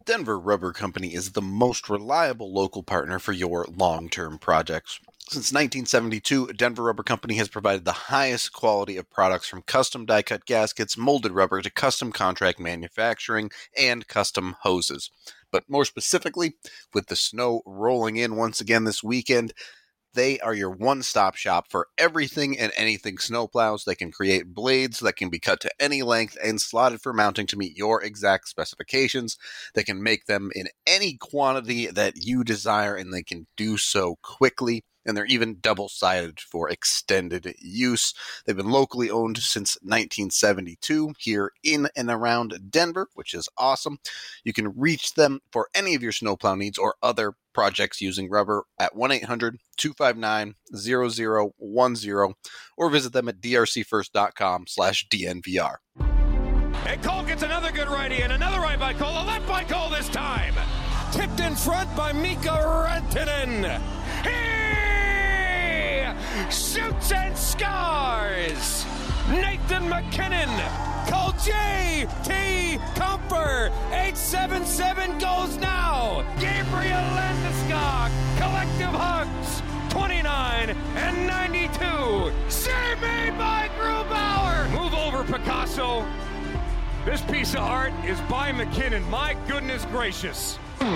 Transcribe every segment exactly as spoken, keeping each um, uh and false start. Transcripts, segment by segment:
Denver Rubber Company is the most reliable local partner for your long-term projects. Since nineteen seventy-two, Denver Rubber Company has provided the highest quality of products from custom die-cut gaskets, molded rubber, to custom contract manufacturing and custom hoses. But more specifically, with the snow rolling in once again this weekend, they are your one-stop shop for everything and anything snowplows. They can create blades that can be cut to any length and slotted for mounting to meet your exact specifications. They can make them in any quantity that you desire, and they can do so quickly. And they're even double-sided for extended use. They've been locally owned since nineteen seventy-two here in and around Denver, which is awesome. You can reach them for any of your snowplow needs or other projects using rubber at one eight hundred two five nine zero zero one zero or visit them at drcfirst.com slash DNVR. And Cole gets another good righty and another right by Cole, a left by Cole this time. Tipped in front by Mika Rantanen. He shoots and scores. Nathan MacKinnon. Call J T Comfer. eight seven seven goes now. Gabriel Landeskog. Collective hugs. twenty-nine and ninety-two. Save me by Grubauer. Move over, Picasso. This piece of art is by McKinnon. My goodness gracious.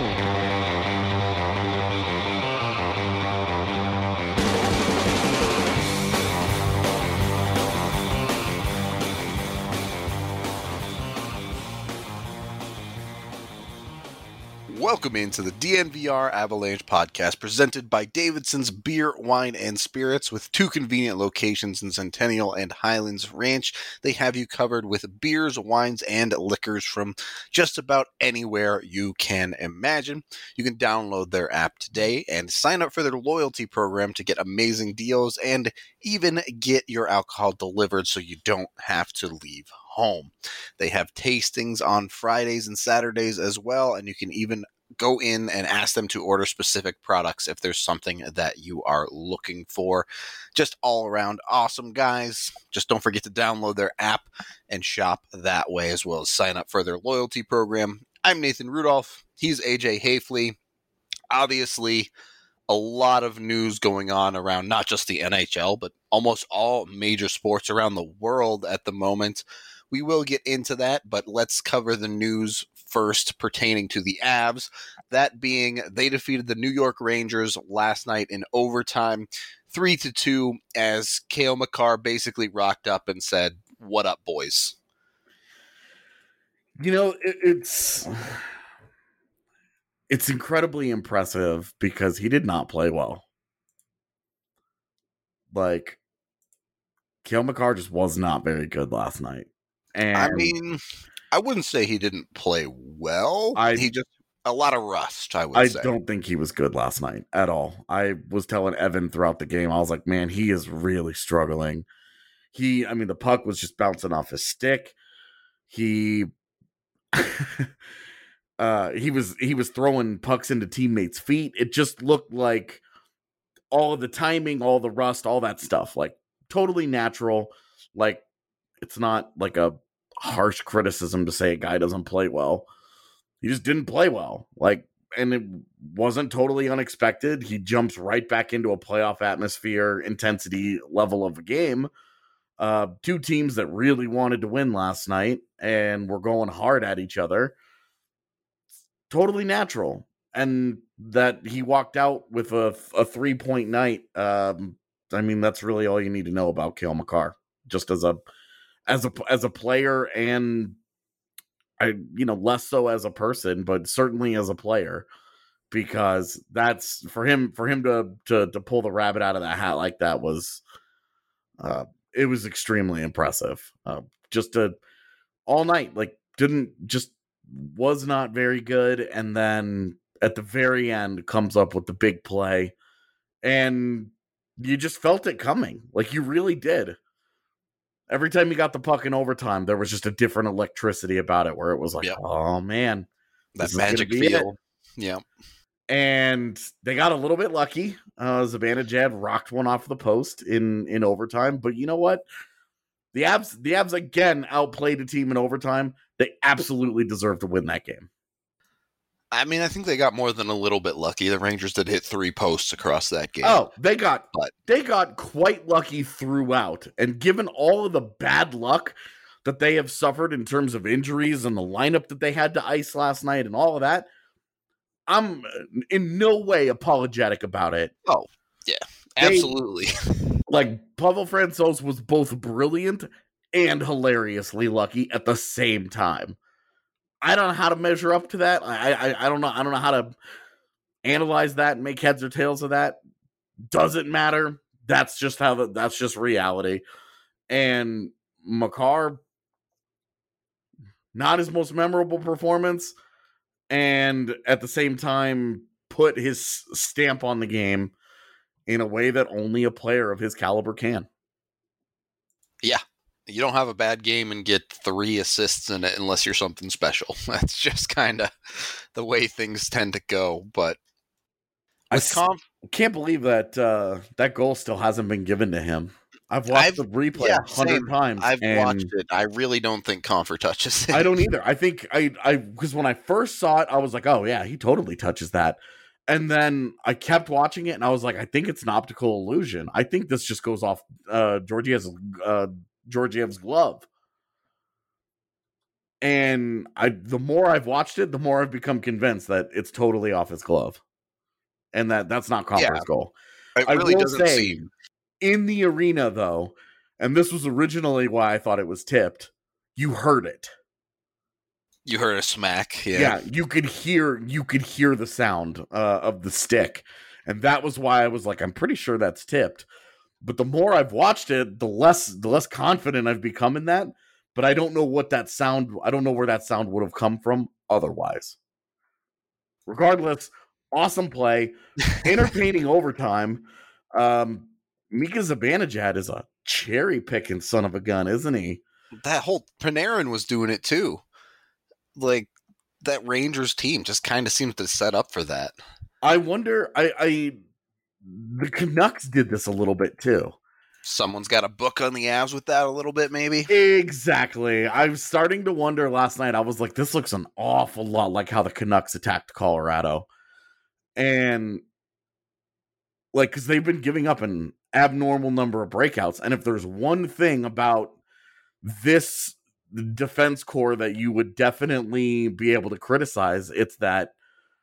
Welcome into the D N V R Avalanche podcast presented by Davidson's Beer, Wine, and Spirits. With two convenient locations in Centennial and Highlands Ranch, they have you covered with beers, wines, and liquors from just about anywhere you can imagine. You can download their app today and sign up for their loyalty program to get amazing deals and even get your alcohol delivered so you don't have to leave home. They have tastings on Fridays and Saturdays as well, and you can even go in and ask them to order specific products if there's something that you are looking for. Just all around awesome guys. Just don't forget to download their app and shop that way, as well as sign up for their loyalty program. I'm Nathan Rudolph. He's A J Hafley. Obviously, a lot of news going on around not just the N H L, but almost all major sports around the world at the moment. We will get into that, but let's cover the news first pertaining to the Avs. That being, they defeated the New York Rangers last night in overtime, three to two, as Cale Makar basically rocked up and said, "What up, boys?" You know, it, it's it's incredibly impressive because he did not play well. Like, Cale Makar just was not very good last night. And I mean, I wouldn't say he didn't play well. I, he just a lot of rust, I would I say. I don't think he was good last night at all. I was telling Evan throughout the game, I was like, man, he is really struggling. He, I mean, the puck was just bouncing off his stick. He, uh, he was he was throwing pucks into teammates' feet. It just looked like all of the timing, all the rust, all that stuff, like totally natural. Like, it's not like a harsh criticism to say a guy doesn't play well. He just didn't play well. Like, and it wasn't totally unexpected. He jumps right back into a playoff atmosphere, intensity level of a game. Uh, two teams that really wanted to win last night and were going hard at each other. Totally natural. And that he walked out with a, a three-point night. Um, I mean, that's really all you need to know about Cale Makar. Just as a as a as a player, and I you know less so as a person, but certainly as a player, because that's for him for him to to to pull the rabbit out of the hat like that was uh it was extremely impressive. Uh, just to all night, like didn't just was not very good, and then at the very end comes up with the big play, and you just felt it coming. Like you really did. Every time you got the puck in overtime, there was just a different electricity about it where it was like, yep. oh, man. That magic feel. Yeah. And they got a little bit lucky. Uh, Zibanejad rocked one off the post in, in overtime. But you know what? The Avs, the Avs again outplayed a team in overtime. They absolutely deserve to win that game. I mean, I think they got more than a little bit lucky. The Rangers did hit three posts across that game. Oh, they got but they got quite lucky throughout. And given all of the bad luck that they have suffered in terms of injuries and the lineup that they had to ice last night and all of that, I'm in no way apologetic about it. Oh, yeah, absolutely. They, like, Pavel Francouz was both brilliant and hilariously lucky at the same time. I don't know how to measure up to that. I, I I don't know. I don't know how to analyze that and make heads or tails of that. Doesn't matter. That's just how the, that's just reality. And Makar, not his most memorable performance, and at the same time put his stamp on the game in a way that only a player of his caliber can. Yeah. You don't have a bad game and get three assists in it unless you're something special. That's just kind of the way things tend to go. But I conf- can't believe that uh, that goal still hasn't been given to him. I've watched I've, the replay a yeah, hundred times. I've watched it. I really don't think Compher touches it. I don't either. I think I I because when I first saw it, I was like, oh yeah, he totally touches that. And then I kept watching it, and I was like, I think it's an optical illusion. I think this just goes off uh, Georgiev's uh, Georgiev's glove. And I, the more I've watched it, the more I've become convinced that it's totally off his glove, and that that's not Compher's yeah, goal. It really doesn't say, seem. In the arena, though, and this was originally why I thought it was tipped. You heard it. You heard a smack. Yeah, yeah. You could hear. You could hear the sound uh, of the stick, and that was why I was like, I'm pretty sure that's tipped. But the more I've watched it, the less the less confident I've become in that. But I don't know what that sound. I don't know where that sound would have come from otherwise. Regardless, awesome play, entertaining overtime. Um, Mika Zibanejad is a cherry picking son of a gun, isn't he? That whole Panarin was doing it too. Like that Rangers team just kind of seems to set up for that. I wonder. I, I the Canucks did this a little bit too. Someone's got a book on the Avs with that a little bit, maybe. Exactly. I was starting to wonder last night. I was like, this looks an awful lot like how the Canucks attacked Colorado, and like because they've been giving up an abnormal number of breakouts. And if there's one thing about this defense core that you would definitely be able to criticize, it's that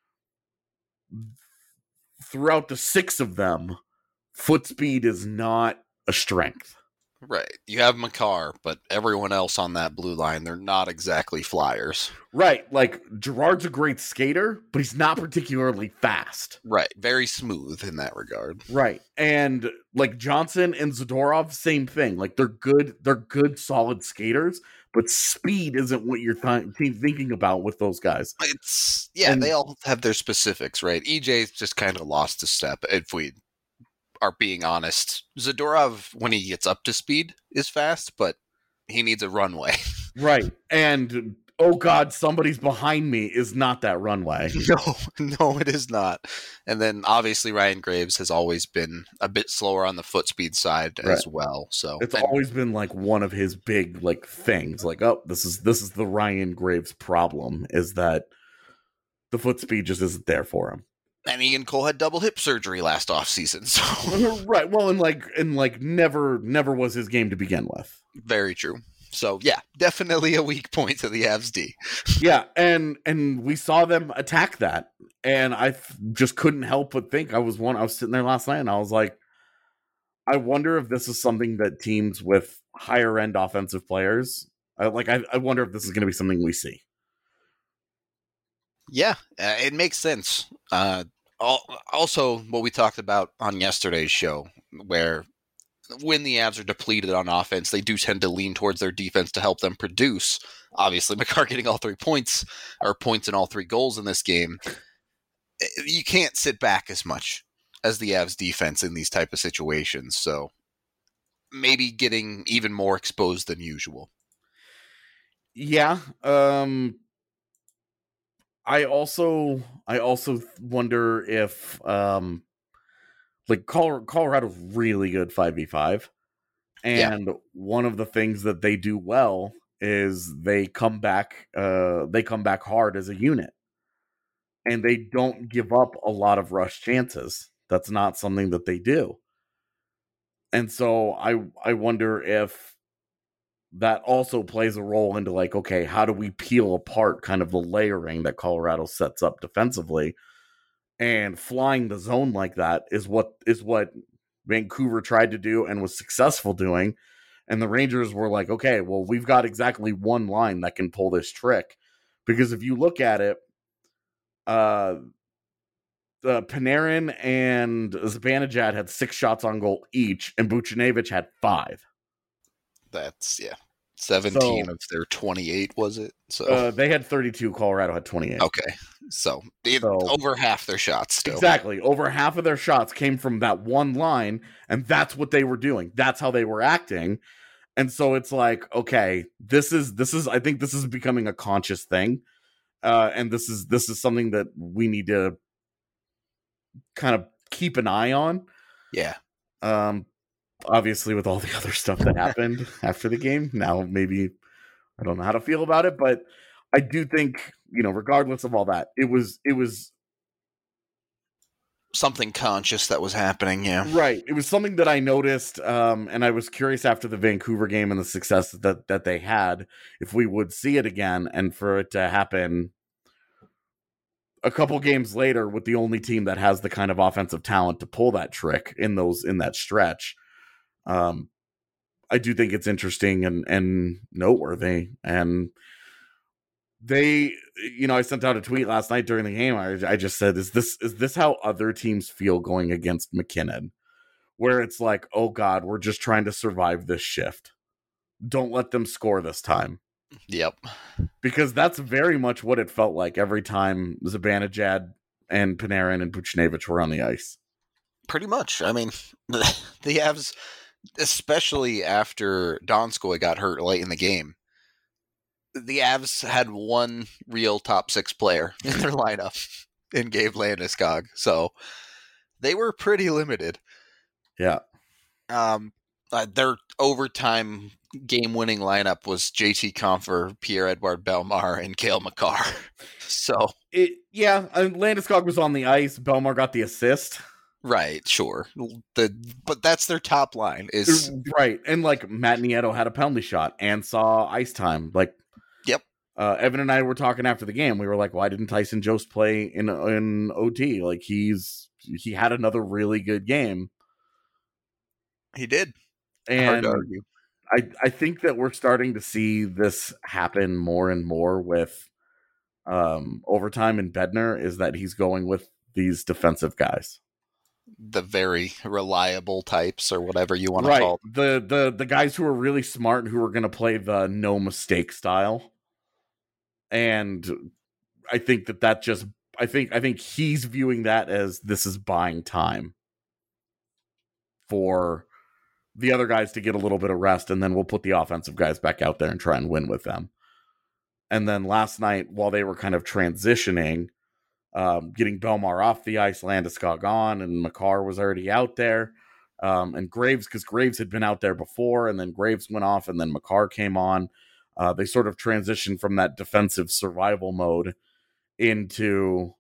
throughout the six of them, foot speed is not a strength. Right. You have Makar, but everyone else on that blue line, they're not exactly flyers. Right. Like, Gerard's a great skater, but he's not particularly fast. Right. Very smooth in that regard. Right. And, like, Johnson and Zadorov, same thing. Like, they're good, they're good, solid skaters, but speed isn't what you're th- thinking about with those guys. It's, yeah, and they all have their specifics, right? E J's just kind of lost a step, if we are being honest. Zadorov, when he gets up to speed, is fast, but he needs a runway. Right. And, oh God, somebody's behind me is not that runway. No, no, it is not. And then, obviously, Ryan Graves has always been a bit slower on the foot speed side right. as well. So it's and, always been, like, one of his big, like, things. Like, oh, this is this is the Ryan Graves problem, is that the foot speed just isn't there for him. And Ian Cole had double hip surgery last offseason, so right. Well, and like, and like, never, never was his game to begin with. Very true. So yeah, definitely a weak point to the Avs D. Yeah, and and we saw them attack that, and I th- just couldn't help but think I was one. I was sitting there last night, and I was like, I wonder if this is something that teams with higher end offensive players, I, like, I, I wonder if this is going to be something we see. Yeah, uh, it makes sense. Uh, also, what we talked about on yesterday's show, where when the Avs are depleted on offense, they do tend to lean towards their defense to help them produce. Obviously, Makar getting all three points, or points in all three goals in this game. You can't sit back as much as the Avs defense in these type of situations. So maybe getting even more exposed than usual. Yeah, um... I also, I also wonder if, um, like, Colorado's really good five v five, and yeah. one of the things that they do well is they come back, uh, they come back hard as a unit, and they don't give up a lot of rush chances. That's not something that they do. And so I I wonder if that also plays a role into like, okay, how do we peel apart kind of the layering that Colorado sets up defensively? And flying the zone like that is what is what Vancouver tried to do and was successful doing. And the Rangers were like, okay, well, we've got exactly one line that can pull this trick. Because if you look at it, uh, uh, Panarin and Zibanejad had six shots on goal each, and Buchnevich had five. That's, yeah, seventeen So- of their twenty-eight, was it? So Uh, they had thirty-two. Colorado had twenty-eight. okay, so, it, So- over half their shots still. Exactly. Over half of their shots came from that one line, and that's what they were doing. That's how they were acting. And so it's like, okay, this is this is I think this is becoming a conscious thing. Uh, and this is this is something that we need to kind of keep an eye on. Yeah, Um, obviously with all the other stuff that happened after the game. Now maybe I don't know how to feel about it, but I do think, you know, regardless of all that, it was it was something conscious that was happening. Yeah, right. It was something that I noticed, um, and I was curious after the Vancouver game and the success that that they had, if we would see it again, and for it to happen a couple games later with the only team that has the kind of offensive talent to pull that trick in those in that stretch. Um, I do think it's interesting and and noteworthy. And they, you know, I sent out a tweet last night during the game. I, I just said, "Is this is this how other teams feel going against McKinnon? Where it's like, oh God, we're just trying to survive this shift. Don't let them score this time." yep. Because that's very much what it felt like every time Zibanejad and Panarin and Buchnevich were on the ice. Pretty much. I mean, the Avs, especially after Donskoy got hurt late in the game, the Avs had one real top six player in their lineup in Gabe Landeskog. So they were pretty limited. Yeah. Um, uh, their overtime game-winning lineup was J T Compher, Pierre-Edouard Bellemare, and Cale Makar. So It, yeah, and Landeskog was on the ice. Bellemare got the assist. right, sure. The but that's their top line is Right. And like Matt Nieto had a penalty shot and saw ice time. Like, Yep. Uh, Evan and I were talking after the game. We were like, why didn't Tyson Jost play in in O T? Like he's he had another really good game. he did. Hard And to argue. I, I think that we're starting to see this happen more and more with um, overtime in Bednar, is that he's going with these defensive guys. The very reliable types or whatever you want to Right. call them. The, the, the guys who are really smart, who are going to play the no mistake style. And I think that that just, I think, I think he's viewing that as this is buying time for the other guys to get a little bit of rest, and then we'll put the offensive guys back out there and try and win with them. And then last night, while they were kind of transitioning, um, getting Bellemare off the ice, Landeskog on, and Makar was already out there, um, and Graves, because Graves had been out there before, and then Graves went off, and then Makar came on. Uh, they sort of transitioned from that defensive survival mode into,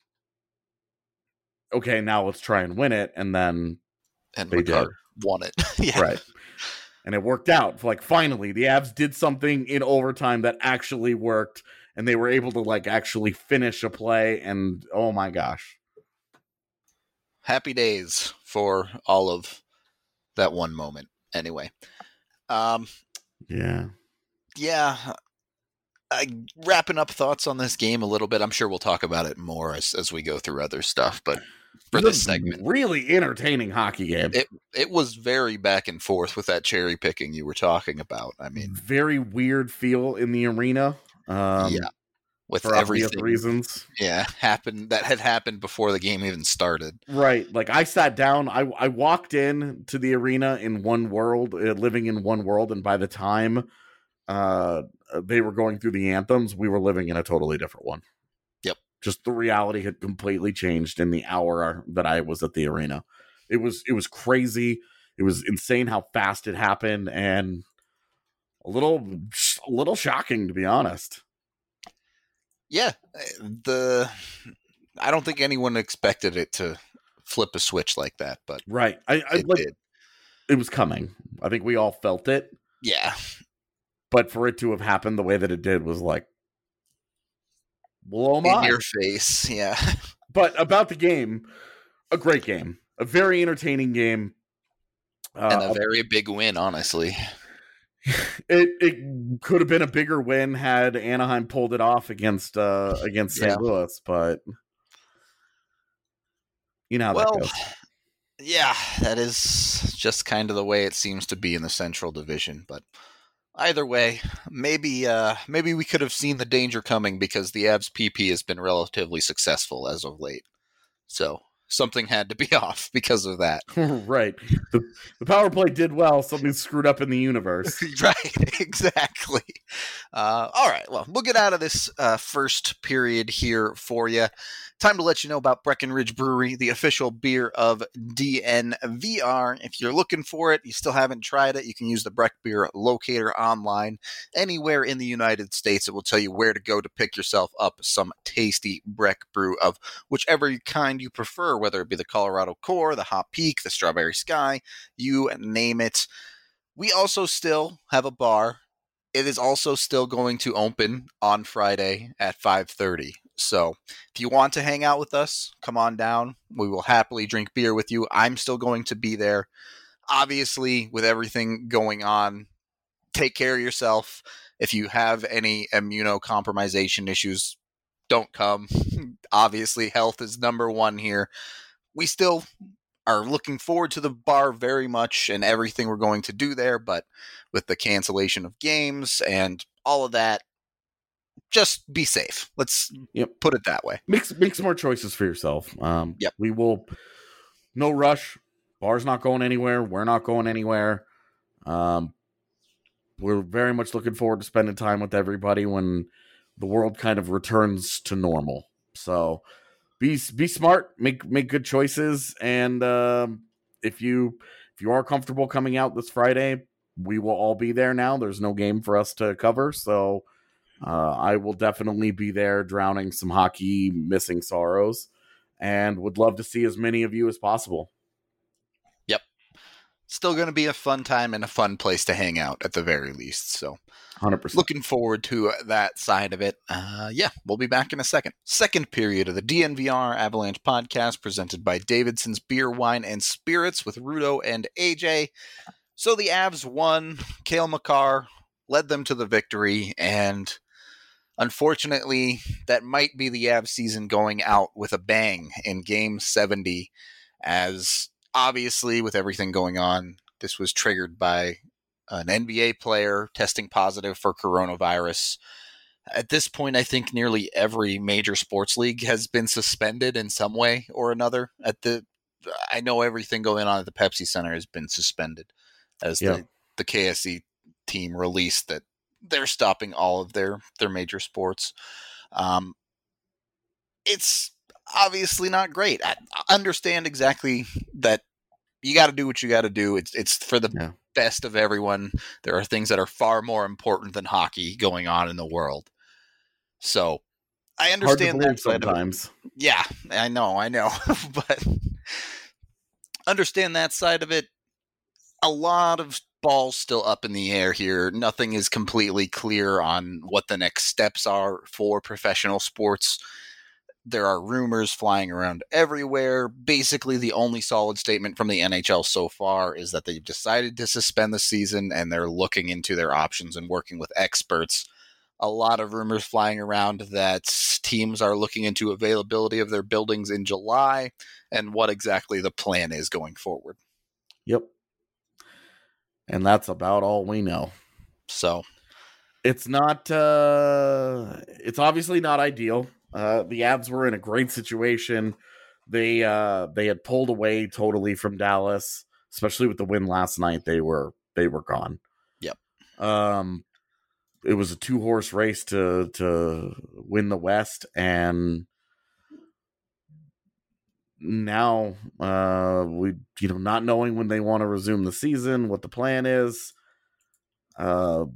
okay, now let's try and win it, and then And they Makar did. won it. yeah. Right. And it worked out. Like, finally, the Avs did something in overtime that actually worked, and they were able to, like, actually finish a play, and oh my gosh. Happy days for all of that one moment. Anyway. Um, Yeah. yeah. I, wrapping up thoughts on this game a little bit. I'm sure we'll talk about it more as, as we go through other stuff, but for It was this a segment, really entertaining hockey game. It- it was very back and forth with that cherry picking you were talking about. I mean, Very weird feel in the arena. Um, yeah, with for obvious everything, reasons. yeah, happened that had happened before the game even started. Right. Like, I sat down, I, I walked in to the arena in one world, uh, living in one world, and by the time uh, they were going through the anthems, we were living in a totally different one. Yep. Just the reality had completely changed in the hour that I was at the arena. It was it was crazy. It was insane how fast it happened, and a little a little shocking, to be honest. Yeah, the I don't think anyone expected it to flip a switch like that, but right. I, I it like did. it was coming. I think we all felt it. Yeah. But for it to have happened the way that it did was like, blow my in your face. Yeah. But about the game, a great game, a very entertaining game, uh, and a uh, very big win. Honestly, it it could have been a bigger win had Anaheim pulled it off against uh, against Saint yeah. Louis, but you know how well, that goes. Yeah, that is just kind of the way it seems to be in the Central Division. But either way, maybe uh, maybe we could have seen the danger coming because the Avs P P has been relatively successful as of late. So something had to be off because of that. Right. The, the power play did well. Something screwed up in the universe. Right, exactly. Uh, all right, well, we'll get out of this uh, first period here for you. Time to let you know about Breckenridge Brewery, the official beer of D N V R. If you're looking for it, you still haven't tried it, you can use the Breck Beer Locator online. Anywhere in the United States, it will tell you where to go to pick yourself up some tasty Breck brew of whichever kind you prefer, whether it be the Colorado Core, the Hot Peak, the Strawberry Sky, you name it. We also still have a bar. It is also still going to open on Friday at five thirty. So if you want to hang out with us, come on down. We will happily drink beer with you. I'm still going to be there. Obviously, with everything going on, take care of yourself. If you have any immunocompromisation issues, don't come. Obviously, health is number one here. We still are looking forward to the bar very much and everything we're going to do there, but with the cancellation of games and all of that, just be safe. Let's yep. put it that way. Make, make some more choices for yourself. Um, yep. We will, no rush. Bar's not going anywhere. We're not going anywhere. Um, we're very much looking forward to spending time with everybody when the world kind of returns to normal. So be be smart, make make good choices, and um, if you if you are comfortable coming out this Friday, we will all be there now. There's no game for us to cover, so uh, I will definitely be there drowning some hockey missing sorrows, and would love to see as many of you as possible. Yep. Still going to be a fun time and a fun place to hang out at the very least. So one hundred percent. Looking forward to that side of it. Uh, yeah, we'll be back in a second. Second period of the D N V R Avalanche podcast presented by Davidson's Beer, Wine, and Spirits with Rudo and A J. So the Avs won. Cale Makar led them to the victory, and unfortunately, that might be the Avs season going out with a bang in Game seventy, as obviously with everything going on, this was triggered by an N B A player testing positive for coronavirus. At this point, I think nearly every major sports league has been suspended in some way or another. At the, I know everything going on at the Pepsi Center has been suspended, as yeah. the, the K S E team released that they're stopping all of their, their major sports. Um, it's obviously not great. I understand exactly that you got to do what you got to do. It's it's for the yeah. best of everyone. There are things that are far more important than hockey going on in the world. So I understand that side sometimes. Of it. Yeah, I know, I know. But understand that side of it. A lot of balls still up in the air here. Nothing is completely clear on what the next steps are for professional sports. There are rumors flying around everywhere. Basically, the only solid statement from the N H L so far is that they've decided to suspend the season and they're looking into their options and working with experts. A lot of rumors flying around that teams are looking into availability of their buildings in July and what exactly the plan is going forward. Yep. And that's about all we know. So it's not, uh, it's obviously not ideal. Uh, the Avs were in a great situation. They uh, they had pulled away totally from Dallas, especially with the win last night. They were they were gone. Yep. Um, it was a two horse race to to win the West, and now uh, we you know not knowing when they want to resume the season, what the plan is. Uh.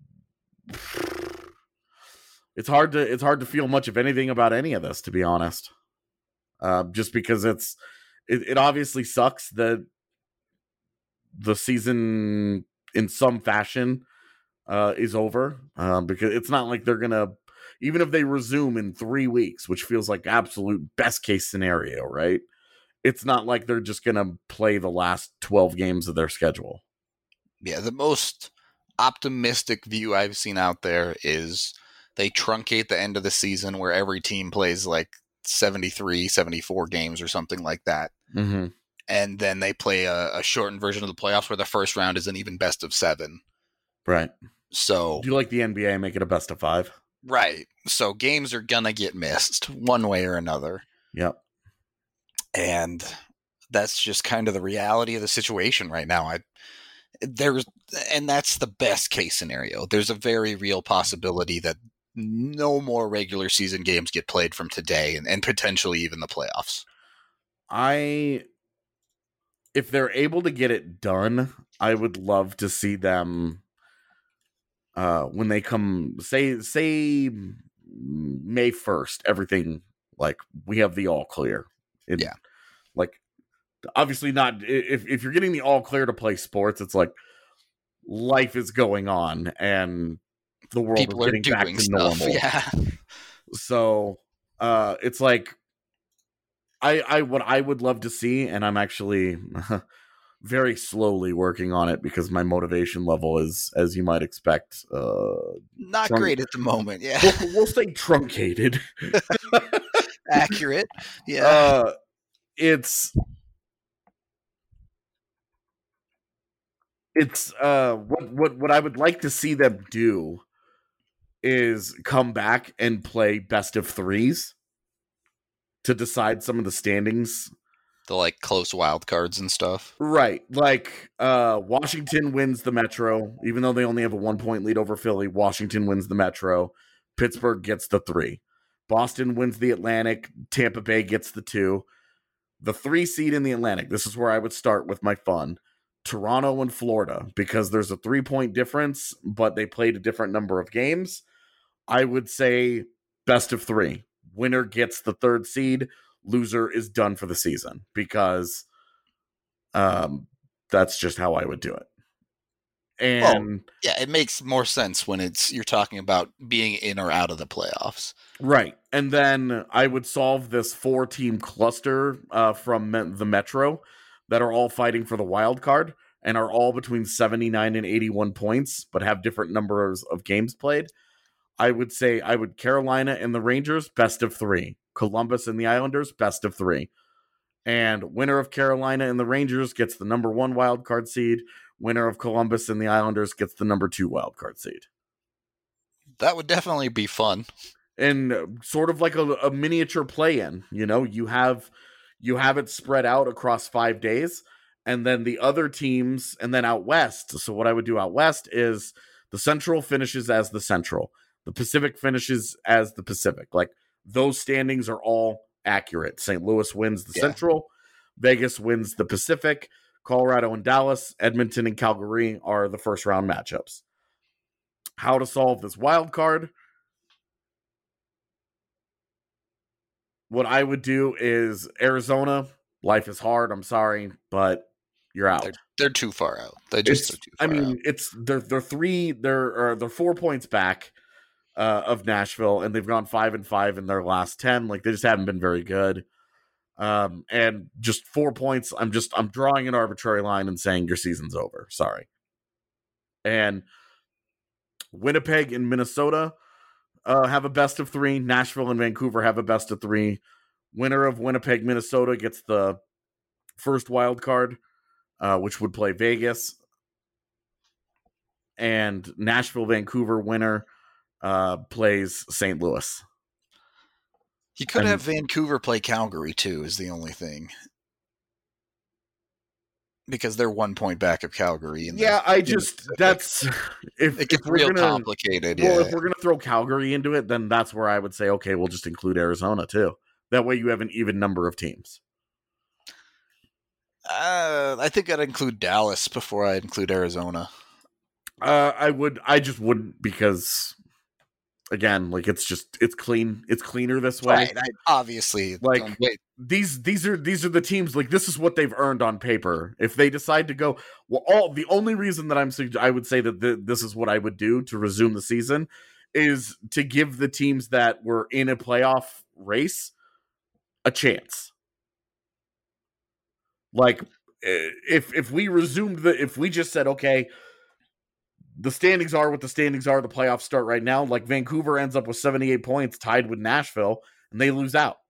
It's hard to it's hard to feel much of anything about any of this, to be honest. uh, just because it's it, it obviously sucks that the season in some fashion uh, is over, um, because it's not like they're gonna, even if they resume in three weeks, which feels like absolute best case scenario, right? It's not like they're just gonna play the last twelve games of their schedule. Yeah, the most optimistic view I've seen out there is they truncate the end of the season where every team plays like seventy-three, seventy-four games or something like that. Mm-hmm. And then they play a, a shortened version of the playoffs where the first round is an even best of seven. Right. So, do you like the N B A make it a best of five? Right. So games are going to get missed one way or another. Yep. And that's just kind of the reality of the situation right now. I there's and that's the best case scenario. There's a very real possibility that no more regular season games get played from today and, and potentially even the playoffs. I if they're able to get it done, I would love to see them uh when they come say say May first, everything like we have the all clear. It, yeah. Like obviously not if if you're getting the all clear to play sports, it's like life is going on and the world People is getting back to stuff. normal. Yeah. So uh it's like I I what I would love to see, and I'm actually very slowly working on it because my motivation level is, as you might expect, uh not trunk- great at the moment. Yeah. We'll, we'll say truncated. Accurate. Yeah. Uh it's It's uh what what what I would like to see them do is come back and play best of threes to decide some of the standings. The like close wild cards and stuff. Right. Like uh Washington wins the Metro, even though they only have a one point lead over Philly. Washington wins the Metro. Pittsburgh gets the three. Boston wins the Atlantic. Tampa Bay gets the two. The three seed in the Atlantic. This is where I would start with my fun. Toronto and Florida, because there's a three point difference, but they played a different number of games. I would say best of three. Winner gets the third seed. Loser is done for the season, because um, that's just how I would do it. And well, yeah, it makes more sense when it's you're talking about being in or out of the playoffs. Right. And then I would solve this four team cluster uh, from me- the Metro that are all fighting for the wild card and are all between seventy-nine and eighty-one points, but have different numbers of games played. I would say I would Carolina and the Rangers, best of three. Columbus and the Islanders, best of three. And winner of Carolina and the Rangers gets the number one wild card seed. Winner of Columbus and the Islanders gets the number two wild card seed. That would definitely be fun. And sort of like a, a miniature play-in, you know, you have you have it spread out across five days, and then the other teams, and then out west. So what I would do out west is the Central finishes as the Central. The Pacific finishes as the Pacific. Like, those standings are all accurate. Saint Louis wins the yeah. Central. Vegas wins the Pacific. Colorado and Dallas, Edmonton and Calgary are the first round matchups. How to solve this wild card? What I would do is Arizona. Life is hard. I'm sorry, but you're out. They're, they're too far out. They just it's, are too far I mean, out. it's they're they're three. They're or they're four points back uh, of Nashville, and they've gone five and five in their last ten. Like, they just haven't been very good. Um, and just four points. I'm just I'm drawing an arbitrary line and saying your season's over. Sorry. And Winnipeg and Minnesota uh, have a best of three. Nashville and Vancouver have a best of three. Winner of Winnipeg, Minnesota gets the first wild card, uh, which would play Vegas. And Nashville, Vancouver winner uh, plays Saint Louis. You could and, have Vancouver play Calgary, too, is the only thing. Because they're one point back of Calgary. In yeah, the, I just, that's, if, it gets if we're real gonna, complicated. Well, yeah. if we're going to throw Calgary into it, then that's where I would say, okay, we'll just include Arizona, too. That way you have an even number of teams. Uh, I think I'd include Dallas before I include Arizona. Uh, I would, I just wouldn't, because again, like it's just it's clean. It's cleaner this way. Right. I, obviously, like um, wait. these these are these are the teams. Like this is what they've earned on paper. If they decide to go, well, all the only reason that I'm I would say that the, this is what I would do to resume the season is to give the teams that were in a playoff race a chance. Like if if we resumed the if we just said, okay, the standings are what the standings are, the playoffs start right now, like Vancouver ends up with seventy-eight points tied with Nashville and they lose out.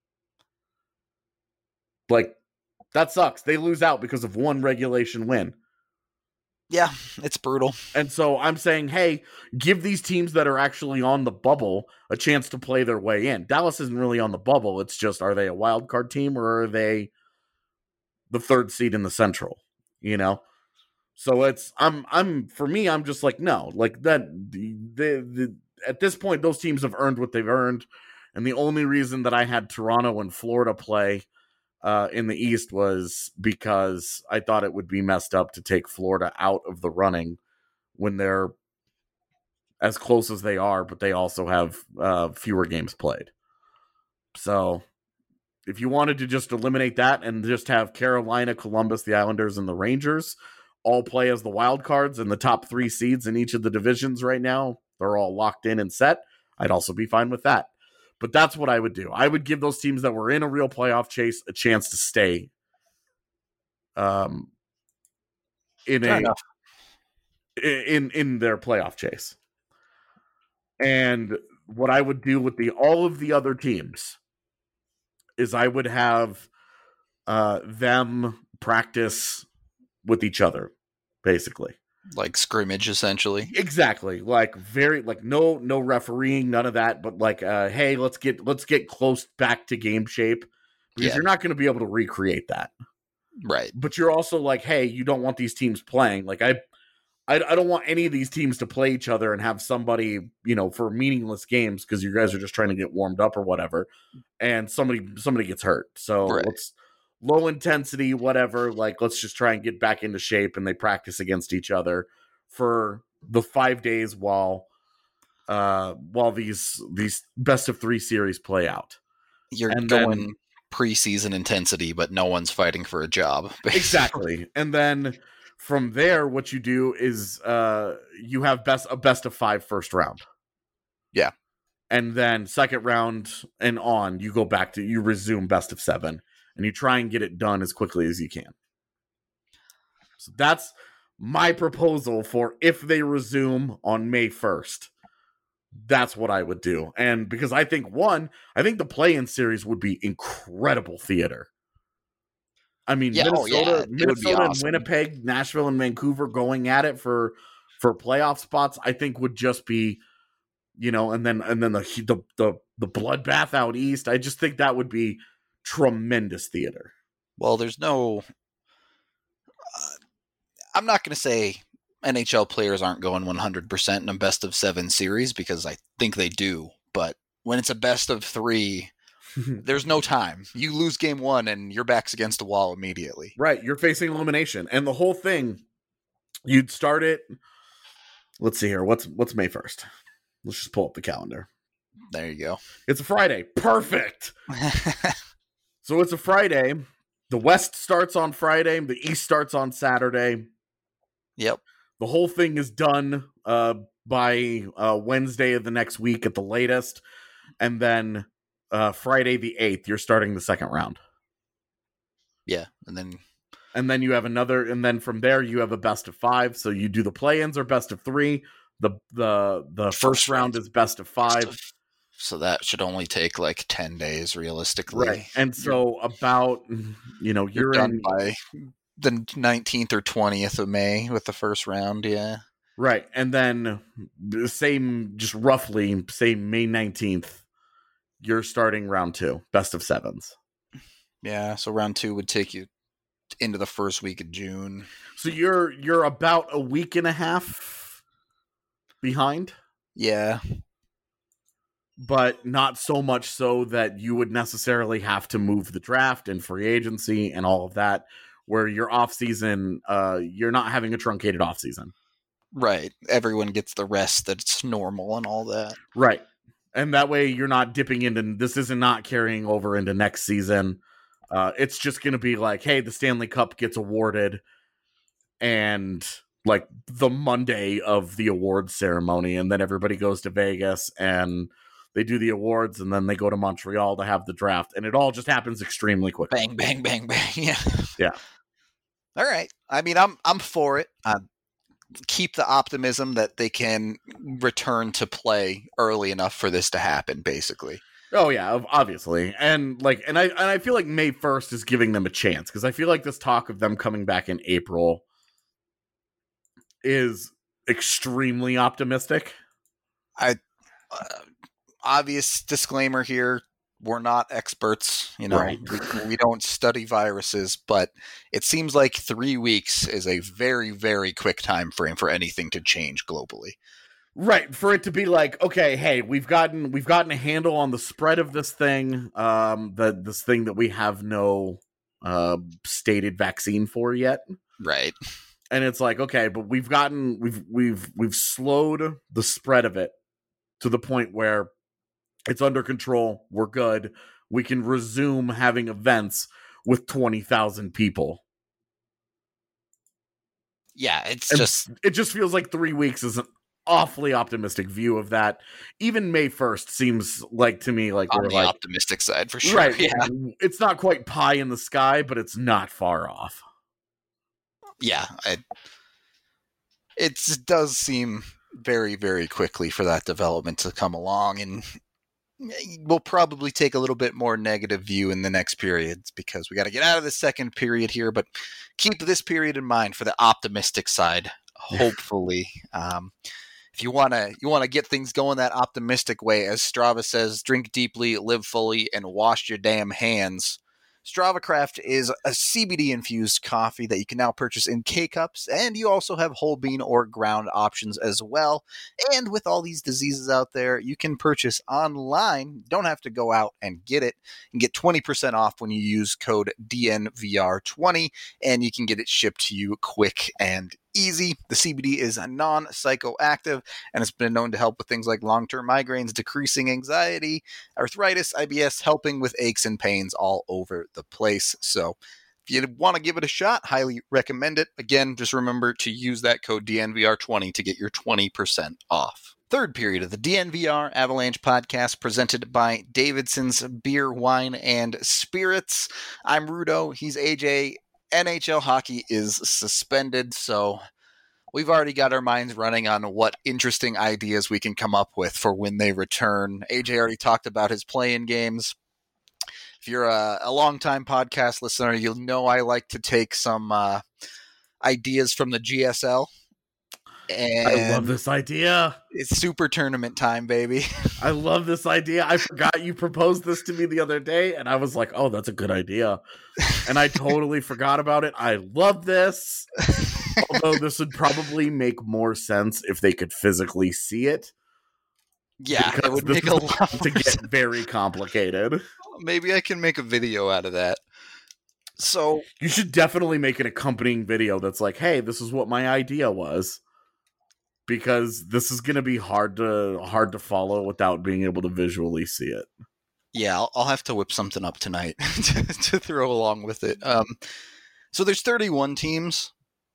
Like that sucks. They lose out because of one regulation win. Yeah, it's brutal. And so I'm saying, hey, give these teams that are actually on the bubble a chance to play their way in. Dallas isn't really on the bubble. It's just, are they a wild card team or are they the third seed in the Central? You know? So it's, I'm, I'm, for me, I'm just like, no, like that, the, the, the, at this point, those teams have earned what they've earned. And the only reason that I had Toronto and Florida play Uh, in the East was because I thought it would be messed up to take Florida out of the running when they're as close as they are, but they also have uh, fewer games played. So if you wanted to just eliminate that and just have Carolina, Columbus, the Islanders, and the Rangers all play as the wild cards and the top three seeds in each of the divisions right now, they're all locked in and set, I'd also be fine with that. But that's what I would do. I would give those teams that were in a real playoff chase a chance to stay um, in Fair a enough. in in their playoff chase. And what I would do with the all of the other teams is I would have uh, them practice with each other, basically. Like scrimmage, essentially. Exactly. Like very like no no refereeing, none of that, but like uh hey, let's get let's get close back to game shape because Yeah. you're not going to be able to recreate that. Right. But you're also like, hey, you don't want these teams playing. Like I I, I don't want any of these teams to play each other and have somebody, you know, for meaningless games because you guys are just trying to get warmed up or whatever, and somebody somebody gets hurt. So Right. let's low intensity, whatever. Like let's just try and get back into shape, and they practice against each other for the five days while uh while these these best of three series play out. You're And going then- preseason intensity, but no one's fighting for a job. Exactly. And then from there, what you do is uh you have best a best of five first round. Yeah. And then second round and on, you go back to you resume best of seven, and you try and get it done as quickly as you can. So that's my proposal for if they resume on May first. That's what I would do. And because I think one, I think the play-in series would be incredible theater. I mean, Yeah, oh, Minnesota, yeah, it would be Minnesota and awesome. Winnipeg, Nashville and Vancouver going at it for for playoff spots, I think would just be, you know, and then and then the the the, the bloodbath out east. I just think that would be tremendous theater. Well, there's no. Uh, I'm not going to say N H L players aren't going one hundred percent in a best of seven series because I think they do. But when it's a best of three, there's no time. You lose game one and your back's against the wall immediately. Right, you're facing elimination, and the whole thing. You'd start it. Let's see here. What's what's May first? Let's just pull up the calendar. There you go. It's a Friday. Perfect. So it's a Friday. The West starts on Friday. The East starts on Saturday. Yep. The whole thing is done uh, by uh, Wednesday of the next week at the latest. And then uh, Friday the eighth, you're starting the second round. Yeah. And then And then you have another, and then from there you have a best of five. So you do the play-ins or best of three. The the the first, First round round. is best of five. so that should only take like ten days realistically. Right. And so about, you know, You're you're, done in, by the nineteenth or twentieth of May with the first round. Yeah. right. And then the same, just roughly, say May nineteenth, you're starting round two, best of sevens. Yeah. So round two would take you into the first week of June. So you're you're about a week and a half behind, Yeah. but not so much so that you would necessarily have to move the draft and free agency and all of that, where your off season, uh, you're not having a truncated off season. Right. Everyone gets the rest that's normal and all that. Right. And that way you're not dipping into, this is not carrying over into next season. Uh, it's just going to be like, hey, the Stanley Cup gets awarded, and like the Monday of the awards ceremony, and then everybody goes to Vegas and they do the awards, and then they go to Montreal to have the draft, and it all just happens extremely quickly. Bang, bang, bang, bang. Yeah. Yeah. All right. I mean, I'm I'm for it. Uh, keep the optimism that they can return to play early enough for this to happen, basically. Oh yeah, obviously. And like and I and I feel like May first is giving them a chance, because I feel like this talk of them coming back in April is extremely optimistic. I uh, obvious disclaimer here, we're not experts, you know. Right. we, we don't study viruses, but it seems like three weeks is a very, very quick time frame for anything to change globally. Right, for it to be like, okay, hey, we've gotten we've gotten a handle on the spread of this thing, um, the this thing that we have no uh, stated vaccine for yet. Right. And it's like, okay, but we've gotten we've we've we've slowed the spread of it to the point where it's under control. We're good. We can resume having events with twenty thousand people. Yeah, it's And just it just feels like three weeks is an awfully optimistic view of that. Even May first seems like to me like on we're the like optimistic side for sure. right. Yeah. It's not quite pie in the sky, but it's not far off. Yeah. I, it does seem very, very quickly for that development to come along, and we'll probably take a little bit more negative view in the next periods because we got to get out of the second period here, but keep this period in mind for the optimistic side. Hopefully, um, if you want to, you want to get things going that optimistic way, as Strava says, drink deeply, live fully, and wash your damn hands. Strava Craft is a C B D-infused coffee that you can now purchase in K-Cups, and you also have whole bean or ground options as well. And with all these diseases out there, you can purchase online. You don't have to go out and get it. You can get twenty percent off when you use code D N V R twenty, and you can get it shipped to you quick and easy. The C B D is non-psychoactive, and it's been known to help with things like long-term migraines, decreasing anxiety, arthritis, I B S, helping with aches and pains all over the place. So if you want to give it a shot, highly recommend it. Again, just remember to use that code D N V R twenty to get your twenty percent off. Third period of the D N V R Avalanche podcast, presented by Davidson's Beer, Wine, and Spirits. I'm Rudo. He's A J. N H L hockey is suspended, so we've already got our minds running on what interesting ideas we can come up with for when they return. A J already talked about his play-in games. If you're a, a long-time podcast listener, you'll know I like to take some uh, ideas from the G S L. And I love this idea. It's super tournament time, baby. I love this idea. I forgot you proposed this to me the other day, and I was like, oh, that's a good idea. And I totally forgot about it. I love this. Although this would probably make more sense if they could physically see it. Yeah, it would make a lot to get sense. Very complicated. Maybe I can make a video out of that. So you should definitely make an accompanying video that's like, hey, this is what my idea was. Because this is going to be hard to hard to follow without being able to visually see it. Yeah, I'll, I'll have to whip something up tonight to, to throw along with it. Um, so there's thirty-one teams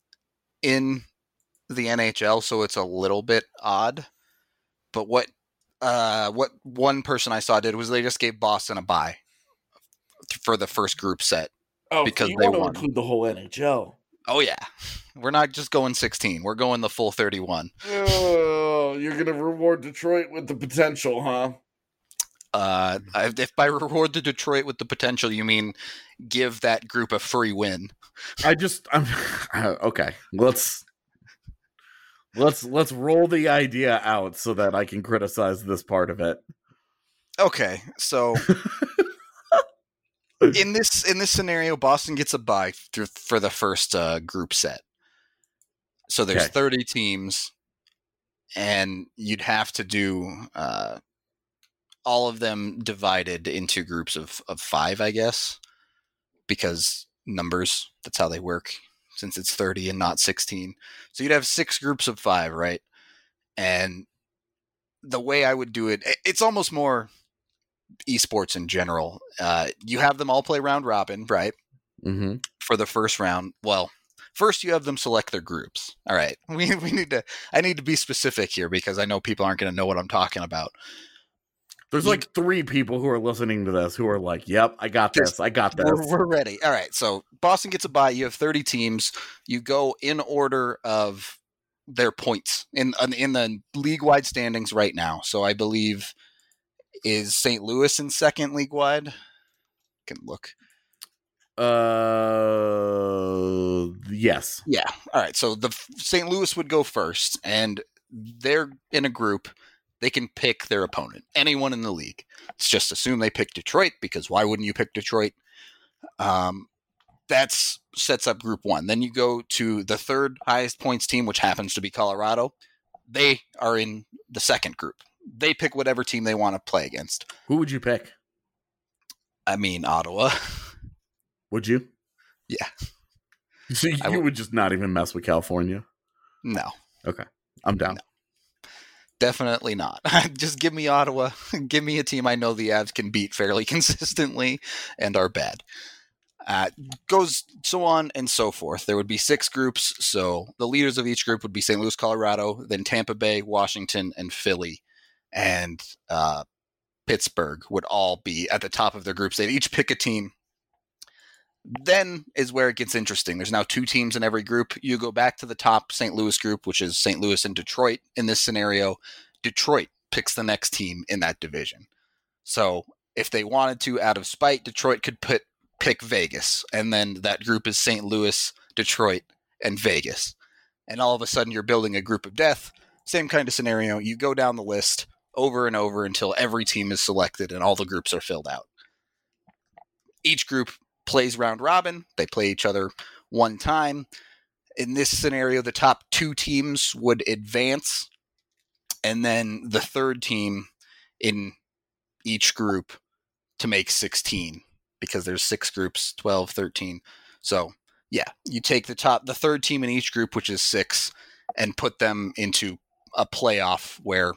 in the N H L, so it's a little bit odd. But what uh, what one person I saw did was they just gave Boston a bye for the first group set. Oh, because so you they want to won. Include the whole N H L. Oh yeah, we're not just going sixteen. We're going the full thirty-one. Oh, you're gonna reward Detroit with the potential, huh? Uh, if by reward the Detroit with the potential, you mean give that group a free win. I just, I'm okay. Let's let's let's roll the idea out so that I can criticize this part of it. Okay, so. In this in this scenario, Boston gets a bye through, for the first uh, group set. So there's Okay. thirty teams, and you'd have to do uh, all of them divided into groups of, of five, I guess, because numbers, that's how they work. since it's thirty and not sixteen. So you'd have six groups of five, right? And the way I would do it, it's almost more esports in general. Uh, you have them all play round robin, right? Mm-hmm. For the first round. Well, first you have them select their groups. All right. We we need to, I need to be specific here because I know people aren't going to know what I'm talking about. There's like three people who are listening to this who are like, yep, I got this. I got this. We're, we're ready. All right. So Boston gets a bye. You have thirty teams. You go in order of their points in in the league-wide standings right now. So I believe is Saint Louis in second league-wide? Can look. Uh, yes. Yeah. All right. So the Saint Louis would go first, and they're in a group. They can pick their opponent, anyone in the league. Let's just assume they pick Detroit, because why wouldn't you pick Detroit? Um, that's sets up group one. Then you go to the third highest points team, which happens to be Colorado. They are in the second group. They pick whatever team they want to play against. Who would you pick? I mean, Ottawa. Would you? Yeah. So you w- would just not even mess with California? No. Okay. I'm down. No. Definitely not. Just give me Ottawa. Give me a team I know the Avs can beat fairly consistently and are bad. Uh, goes so on and so forth. There would be six groups. So the leaders of each group would be Saint Louis, Colorado, then Tampa Bay, Washington, and Philly. And uh, Pittsburgh would all be at the top of their groups. They'd each pick a team. Then is where it gets interesting. There's now two teams in every group. You go back to the top Saint Louis group, which is Saint Louis and Detroit. In this scenario, Detroit picks the next team in that division. So if they wanted to, out of spite, Detroit could put pick Vegas. And then that group is Saint Louis, Detroit, and Vegas. And all of a sudden you're building a group of death. Same kind of scenario. You go down the list over and over until every team is selected and all the groups are filled out. Each group plays round robin. They play each other one time. In this scenario, the top two teams would advance, and then the third team in each group to make sixteen, because there's six groups, twelve, thirteen. So yeah, you take the top, the third team in each group, which is six, and put them into a playoff where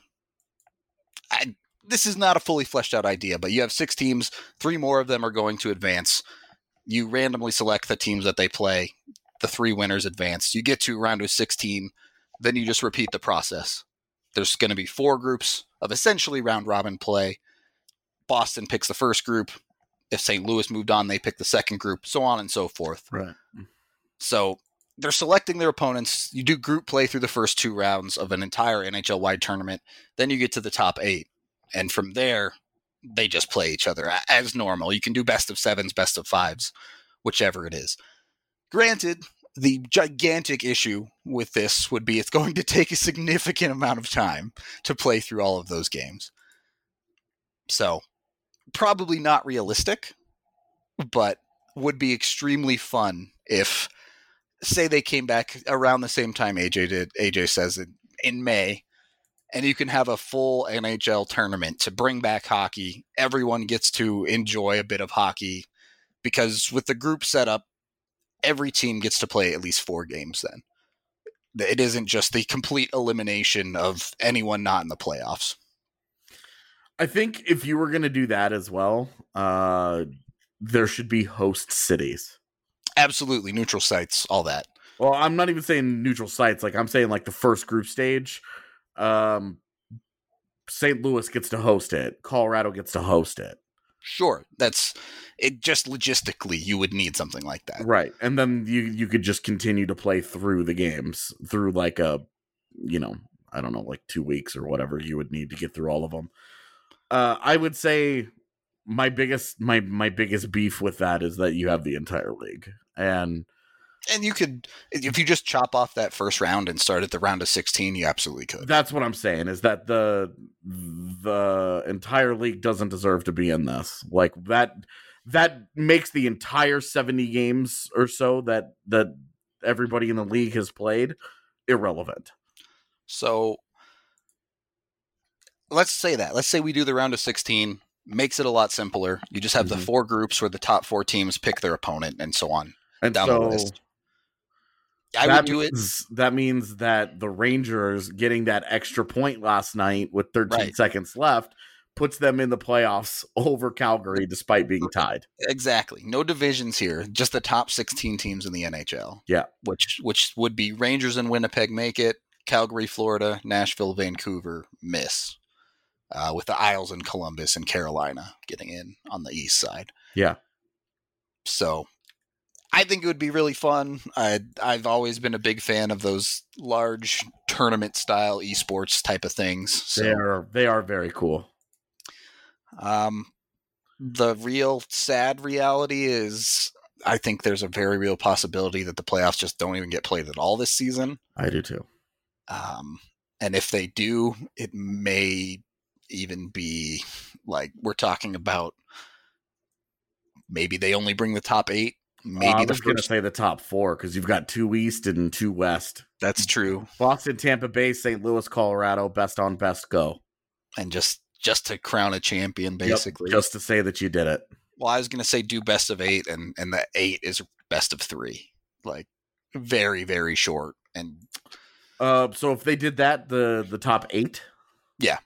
I, this is not a fully fleshed out idea, but you have six teams, three more of them are going to advance. You randomly select the teams that they play. The three winners advance. You get to round of sixteen. Then you just repeat the process. There's going to be four groups of essentially round robin play. Boston picks the first group. If Saint Louis moved on, they pick the second group, so on and so forth. Right. So they're selecting their opponents. You do group play through the first two rounds of an entire N H L-wide tournament. Then you get to the top eight. And from there, they just play each other as normal. You can do best of sevens, best of fives, whichever it is. Granted, the gigantic issue with this would be it's going to take a significant amount of time to play through all of those games. So, probably not realistic, but would be extremely fun if, say they came back around the same time A J did, A J says it, in May, and you can have a full N H L tournament to bring back hockey. Everyone gets to enjoy a bit of hockey, because with the group setup, every team gets to play at least four games then. It isn't just the complete elimination of anyone not in the playoffs. I think if you were going to do that as well, uh, there should be host cities. Absolutely. Neutral sites, all that. Well, I'm not even saying neutral sites. Like, I'm saying like the first group stage. Um, Saint Louis gets to host it. Colorado gets to host it. Sure. That's it. Just logistically, you would need something like that. Right. And then you, you could just continue to play through the games through like a, you know, I don't know, like two weeks or whatever you would need to get through all of them. Uh, I would say my biggest, my, my biggest beef with that is that you have the entire league. And, And you could, if you just chop off that first round and start at the round of sixteen, you absolutely could. That's what I'm saying, is that the the entire league doesn't deserve to be in this. Like, that that makes the entire seventy games or so that that everybody in the league has played irrelevant. So let's say that. Let's say we do the round of sixteen. Makes it a lot simpler. You just have mm-hmm. the four groups where the top four teams pick their opponent and so on And down so, the list. I that would do it. means, That means that the Rangers getting that extra point last night with thirteen Right. seconds left puts them in the playoffs over Calgary despite being tied. Exactly. No divisions here. Just the top sixteen teams in the N H L. Yeah. Which which would be Rangers and Winnipeg make it, Calgary, Florida, Nashville, Vancouver miss. Uh, with the Isles and Columbus and Carolina getting in on the east side. Yeah. So I think it would be really fun. I, I've always been a big fan of those large tournament style esports type of things. So, They are they are very cool. um, the real sad reality is I think there's a very real possibility that the playoffs just don't even get played at all this season. I do too. Um, and if they do, it may even be like we're talking about maybe they only bring the top eight. Maybe uh, I the was going to first. say the top four because you've got two East and two West. That's true. Boston, Tampa Bay, Saint Louis, Colorado, best on best go. And just just to crown a champion, basically. Yep, just to say that you did it. Well, I was going to say do best of eight, and and the eight is best of three. Like very very short. And Uh, so if they did that, the the top eight, yeah.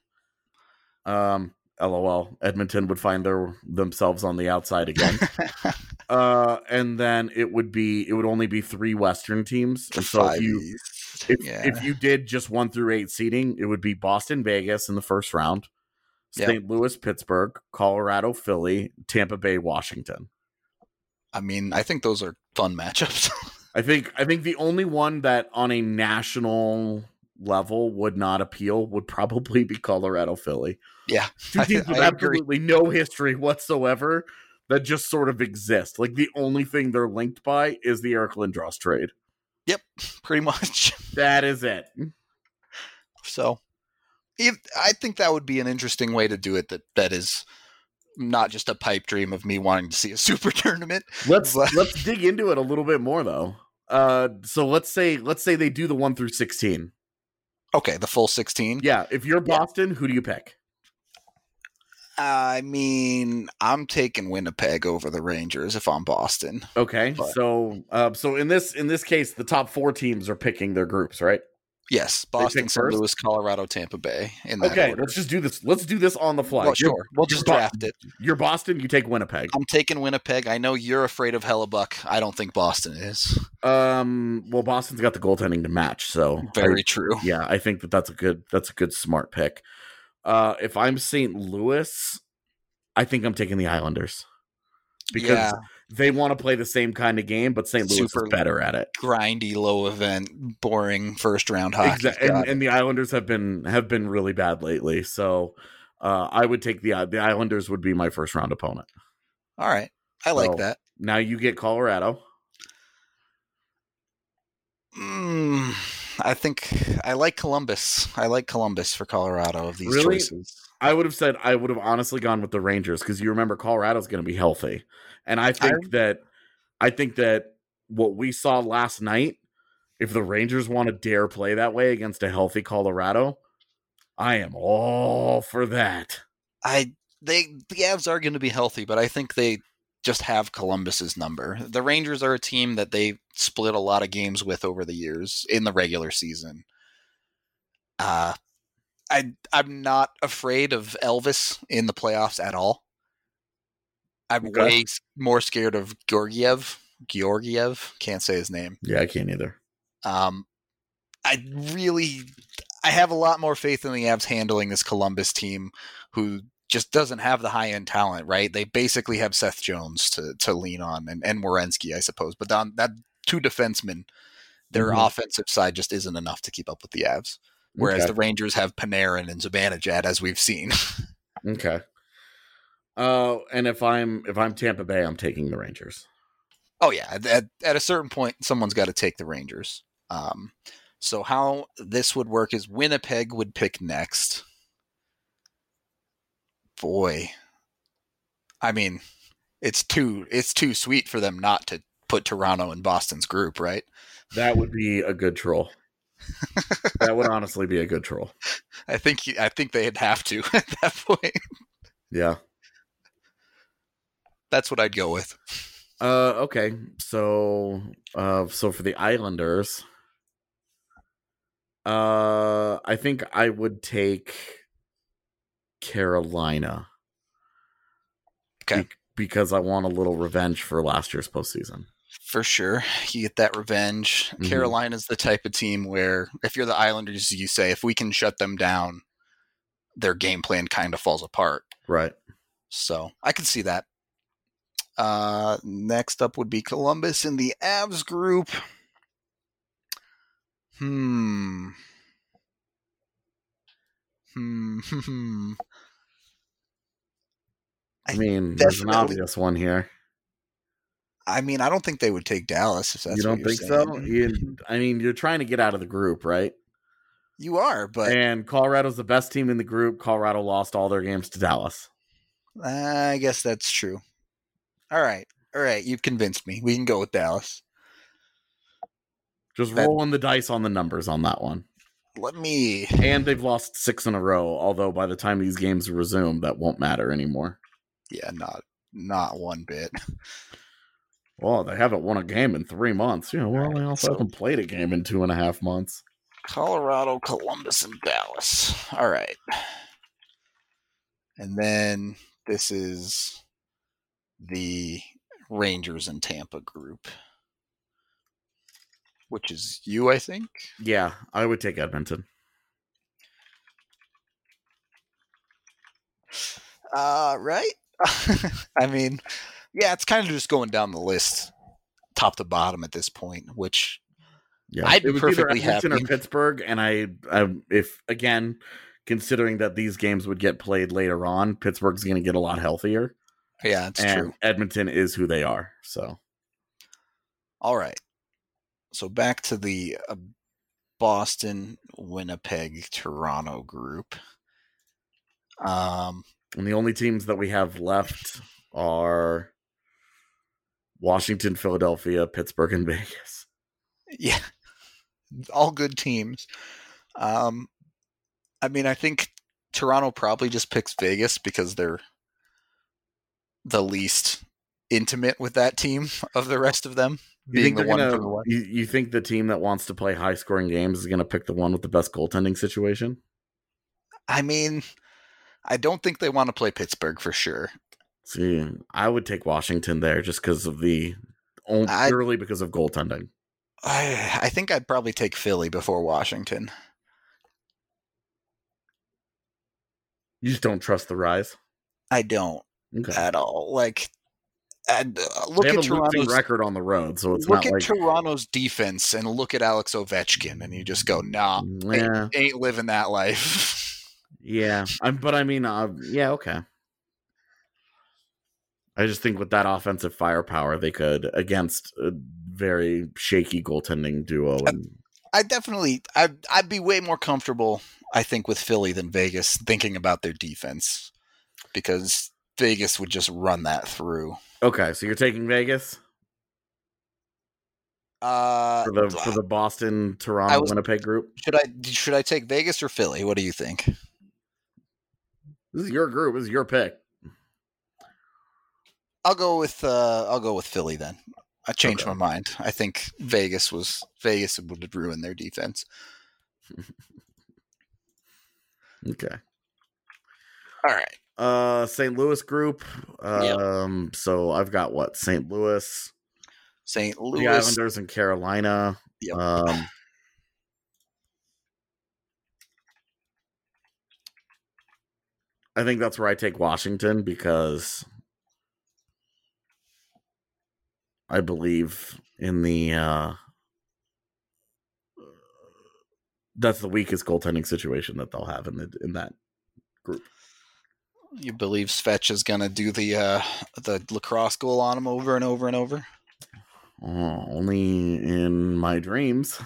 Um, LOL. Edmonton would find their themselves on the outside again. uh, and then it would be it would only be three Western teams. And so if you if, yeah. if you did just one through eight seeding, it would be Boston, Vegas in the first round, Yep. Saint Louis, Pittsburgh, Colorado, Philly, Tampa Bay, Washington. I mean, I think those are fun matchups. I think I think the only one that on a national level would not appeal would probably be Colorado, Philly. Yeah, Two teams I- with I agree. absolutely no history whatsoever that just sort of exist. Like the only thing they're linked by is the Eric Lindros trade. Yep, pretty much. That is it. So, if, I think that would be an interesting way to do it. That that is not just a pipe dream of me wanting to see a super tournament. Let's But- let's dig into it a little bit more though. Uh, so let's say let's say they do the one through sixteen. Okay, the full sixteen. Yeah, if you're Yeah. Boston, who do you pick? I mean, I'm taking Winnipeg over the Rangers if I'm Boston. Okay, But- so uh, so in this in this case, the top four teams are picking their groups, right? Yes, They Boston, pick Saint first? Louis, Colorado, Tampa Bay. In that Okay, order. let's just do this. Let's do this on the fly. Well, You're- sure, we'll just you're Bo- draft it. You're Boston. You take Winnipeg. I'm taking Winnipeg. I know you're afraid of Hellebuck. I don't think Boston is. Um, well, Boston's got the goaltending to match, so Very I- true. yeah, I think that that's a good that's a good smart pick. Uh, if I'm Saint Louis, I think I'm taking the Islanders because Yeah. they want to play the same kind of game, but Saint Louis Super is better at it. Grindy, low event, boring first round hockey. Exa- and, Got it. and the Islanders have been have been really bad lately, so uh, I would take the the Islanders would be my first round opponent. All right, I like So- that. Now you get Colorado. Mm, I think I like Columbus. I like Columbus for Colorado of these Really? choices. I would have said I would have honestly gone with the Rangers because you remember Colorado's going to be healthy, and I think I- that I think that what we saw last night, if the Rangers want to dare play that way against a healthy Colorado, I am all for that. I they the Avs are going to be healthy, but I think they just have Columbus's number. The Rangers are a team that they split a lot of games with over the years in the regular season. Uh I I'm not afraid of Elvis in the playoffs at all. I'm Okay. way s- more scared of Georgiev. Georgiev, can't say his name. Yeah, I can't either. Um, I really, I have a lot more faith in the Avs handling this Columbus team, who just doesn't have the high end talent. Right? They basically have Seth Jones to to lean on, and and Werenski, I suppose. But on that two defensemen, their Mhm. offensive side just isn't enough to keep up with the Avs. Whereas Okay. the Rangers have Panarin and Zibanejad, as we've seen. Okay. Uh, and if I'm if I'm Tampa Bay, I'm taking the Rangers. Oh yeah, at, at, at a certain point, someone's got to take the Rangers. Um, so how this would work is Winnipeg would pick next. Boy, I mean, it's too it's too sweet for them not to put Toronto in Boston's group, right? That would be a good troll. That would honestly be a good troll. I think you- I think they'd have to at that point. Yeah. That's what I'd go with. Uh, okay. So, uh, so for the Islanders, uh, I think I would take Carolina. Okay. Be- because I want a little revenge for last year's postseason. For sure. You get that revenge. Mm-hmm. Carolina's the type of team where if you're the Islanders, you say, if we can shut them down, their game plan kind of falls apart. Right. So I can see that. Uh, next up would be Columbus in the Avs group. Hmm. Hmm. Hmm. I mean, there's an obvious one here. I mean, I don't think they would take Dallas if that's you don't what you're think saying. so. You, I mean, you're trying to get out of the group, right? You are, but and Colorado's the best team in the group. Colorado lost all their games to Dallas. I guess that's true. All right, all right, you've convinced me. We can go with Dallas. Just that, rolling the dice on the numbers on that one. Let me. And they've lost six in a row. Although by the time these games resume, that won't matter anymore. Yeah, not not one bit. Well, they haven't won a game in three months. Yeah, well, right, they also so haven't played a game in two and a half months. Colorado, Columbus, and Dallas. All right. And then this is the Rangers and Tampa group, which is you, I think. Yeah, I would take Edmonton. Uh, right? I mean, yeah, it's kind of just going down the list, top to bottom at this point, which yeah, I'd be it was perfectly either Edmonton happy. or Pittsburgh, and I, I, if again, considering that these games would get played later on, Pittsburgh's going to get a lot healthier. Yeah, it's and true. Edmonton is who they are. So, all right. So back to the uh, Boston, Winnipeg, Toronto group. Um, and the only teams that we have left are Washington, Philadelphia, Pittsburgh, and Vegas. Yeah, all good teams. Um, I mean, I think Toronto probably just picks Vegas because they're the least intimate with that team of the rest of them. You being think, the one gonna, from the West. You, you think the team that wants to play high-scoring games is going to pick the one with the best goaltending situation? I mean, I don't think they want to play Pittsburgh for sure. See, I would take Washington there just because of the only, purely because of goaltending. I, I think I'd probably take Philly before Washington. You just don't trust the Rise? I don't okay. at all. Like, and, uh, look they have at a Toronto's losing record on the road, so it's look not at like Toronto's defense and look at Alex Ovechkin, and you just go, "Nah, yeah. ain't, ain't living that life." Yeah, I'm, but I mean, uh, yeah, okay. I just think with that offensive firepower, they could against a very shaky goaltending duo. And I, I definitely, I'd, I'd be way more comfortable, I think, with Philly than Vegas, thinking about their defense, because Vegas would just run that through. Okay, so you're taking Vegas uh, for the for the Boston, Toronto, was, Winnipeg group. Should I should I take Vegas or Philly? What do you think? This is your group. This is your pick. I'll go with uh, I'll go with Philly then. I changed okay. my mind. I think Vegas was Vegas would ruin their defense. Okay. All right. Uh, Saint Louis group. Um, yep. So I've got what? Saint Louis, Saint Louis, the Islanders, and Carolina. Yep. Um, I think that's where I take Washington because I believe in the uh, that's the weakest goaltending situation that they'll have in the in that group. You believe Svetch is gonna do the uh, the lacrosse goal on him over and over and over? Oh, only in my dreams.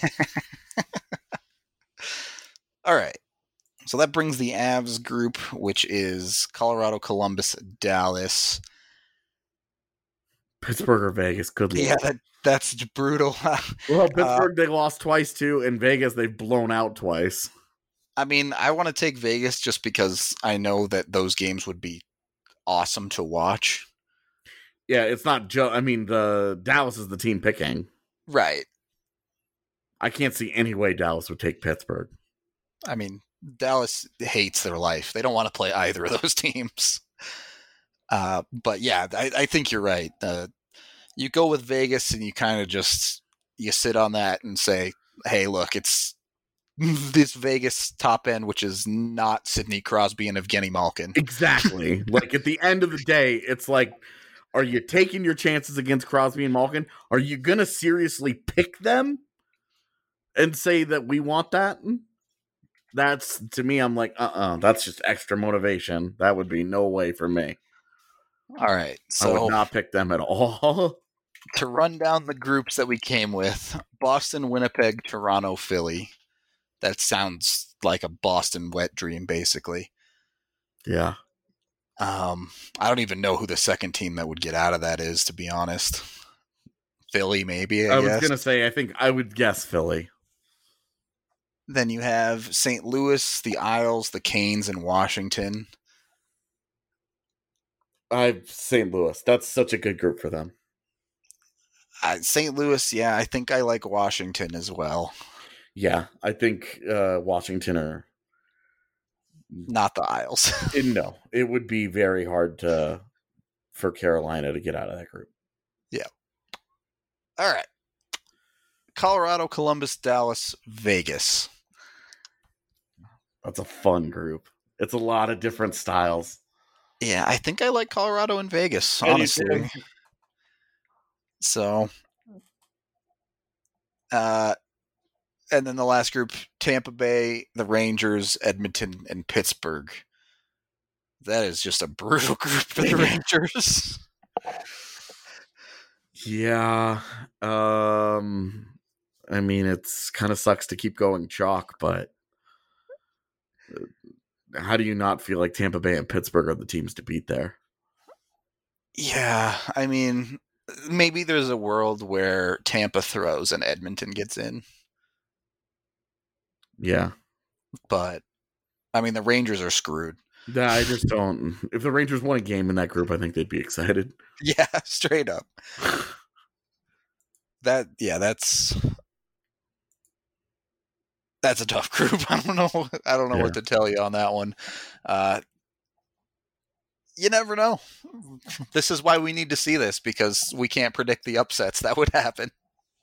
All right. So that brings the Avs group, which is Colorado, Columbus, Dallas, Pittsburgh or Vegas. Good luck. Yeah, that, that's brutal. Well, Pittsburgh, uh, they lost twice too. In Vegas, they've blown out twice. I mean, I want to take Vegas just because I know that those games would be awesome to watch. Yeah, it's not Joe. I mean, the Dallas is the team picking. Right. I can't see any way Dallas would take Pittsburgh. I mean, Dallas hates their life. They don't want to play either of those teams. Uh, but yeah, I, I think you're right. Uh, you go with Vegas and you kind of just, you sit on that and say, hey, look, it's this Vegas top end, which is not Sidney Crosby and Evgeny Malkin. Exactly. Like at the end of the day, it's like, are you taking your chances against Crosby and Malkin? Are you going to seriously pick them and say that we want that? That's, to me, I'm like, uh-uh, that's just extra motivation. That would be no way for me. All right. So I would not pick them at all. To run down the groups that we came with, Boston, Winnipeg, Toronto, Philly. That sounds like a Boston wet dream, basically. Yeah. Um, I don't even know who the second team that would get out of that is, to be honest. Philly, maybe, I, I guess. was going to say, I think I would guess Philly. Then you have Saint Louis, the Isles, the Canes, and Washington. I Saint Louis. That's such a good group for them. Uh, Saint Louis, yeah, I think I like Washington as well. Yeah, I think uh, Washington are... Not the Isles. No, it would be very hard to for Carolina to get out of that group. Yeah. All right. Colorado, Columbus, Dallas, Vegas. That's a fun group. It's a lot of different styles. Yeah, I think I like Colorado and Vegas, I do honestly. too. So, uh, and then the last group, Tampa Bay, the Rangers, Edmonton, and Pittsburgh. That is just a brutal group for the Rangers. Yeah. Um, I mean, it's kind of sucks to keep going chalk, but how do you not feel like Tampa Bay and Pittsburgh are the teams to beat there? Yeah, I mean, maybe there's a world where Tampa throws and Edmonton gets in. Yeah. But, I mean, the Rangers are screwed. Yeah, I just don't. If the Rangers won a game in that group, I think they'd be excited. Yeah, straight up. That, yeah, that's... That's a tough group. I don't know. I don't know Yeah. what to tell you on that one. Uh, you never know. This is why we need to see this, because we can't predict the upsets that would happen.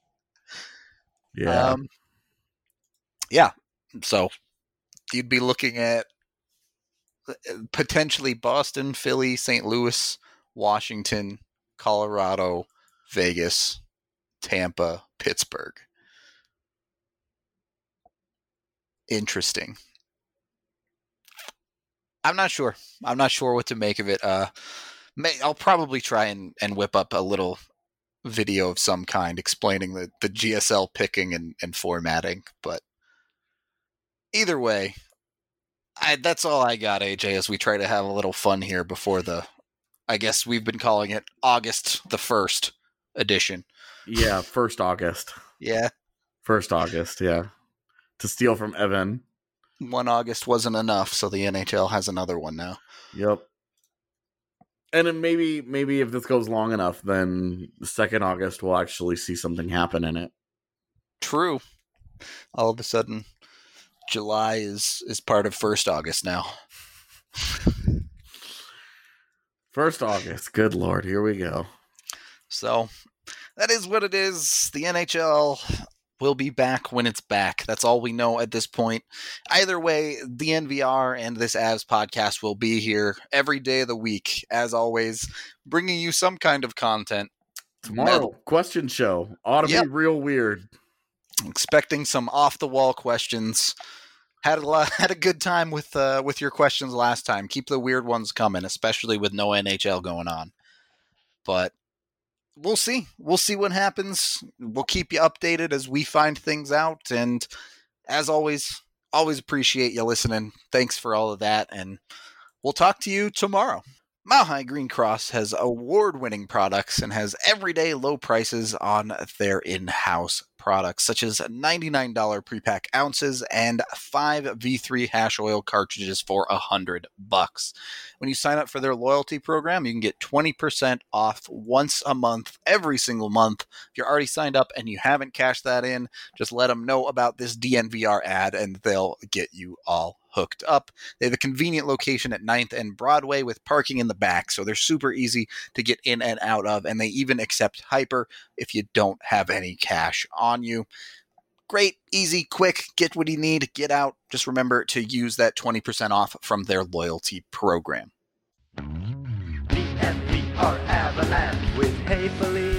Yeah. Um, yeah. So you'd be looking at potentially Boston, Philly, Saint Louis, Washington, Colorado, Vegas, Tampa, Pittsburgh. Interesting. I'm not sure. I'm not sure what to make of it. Uh, may, I'll probably try and, and whip up a little video of some kind explaining the, the G S L picking and, and formatting. But either way, I, that's all I got, A J, as we try to have a little fun here before the, I guess we've been calling it August the first edition. Yeah, first August. Yeah. First August, yeah. To steal from Evan. One August wasn't enough, so the N H L has another one now. Yep. And then maybe maybe if this goes long enough, then the second August we'll actually see something happen in it. True. All of a sudden, July is, is part of first August now. First August. Good Lord. Here we go. So, that is what it is. The N H L will be back when it's back. That's all we know at this point. Either way, the N V R and this Avs podcast will be here every day of the week, as always, bringing you some kind of content. Tomorrow, Metal. question show. Ought to Yep. be real weird. Expecting some off-the-wall questions. Had a lot, had a good time with uh, with your questions last time. Keep the weird ones coming, especially with no N H L going on. But we'll see. We'll see what happens. We'll keep you updated as we find things out. And as always, always appreciate you listening. Thanks for all of that. And we'll talk to you tomorrow. Mile High Green Cross has award-winning products and has everyday low prices on their in-house products. products such as ninety-nine dollars pre-pack ounces and five V three hash oil cartridges for one hundred bucks. When you sign up for their loyalty program, you can get twenty percent off once a month, every single month. If you're already signed up and you haven't cashed that in, just let them know about this D N V R ad and they'll get you all hooked up. They have a convenient location at ninth and Broadway with parking in the back, so they're super easy to get in and out of, and they even accept Hyper if you don't have any cash on you. Great, easy, quick, get what you need, get out. Just remember to use that twenty percent off from their loyalty program. D N V R Avalanche with Hey Felipe.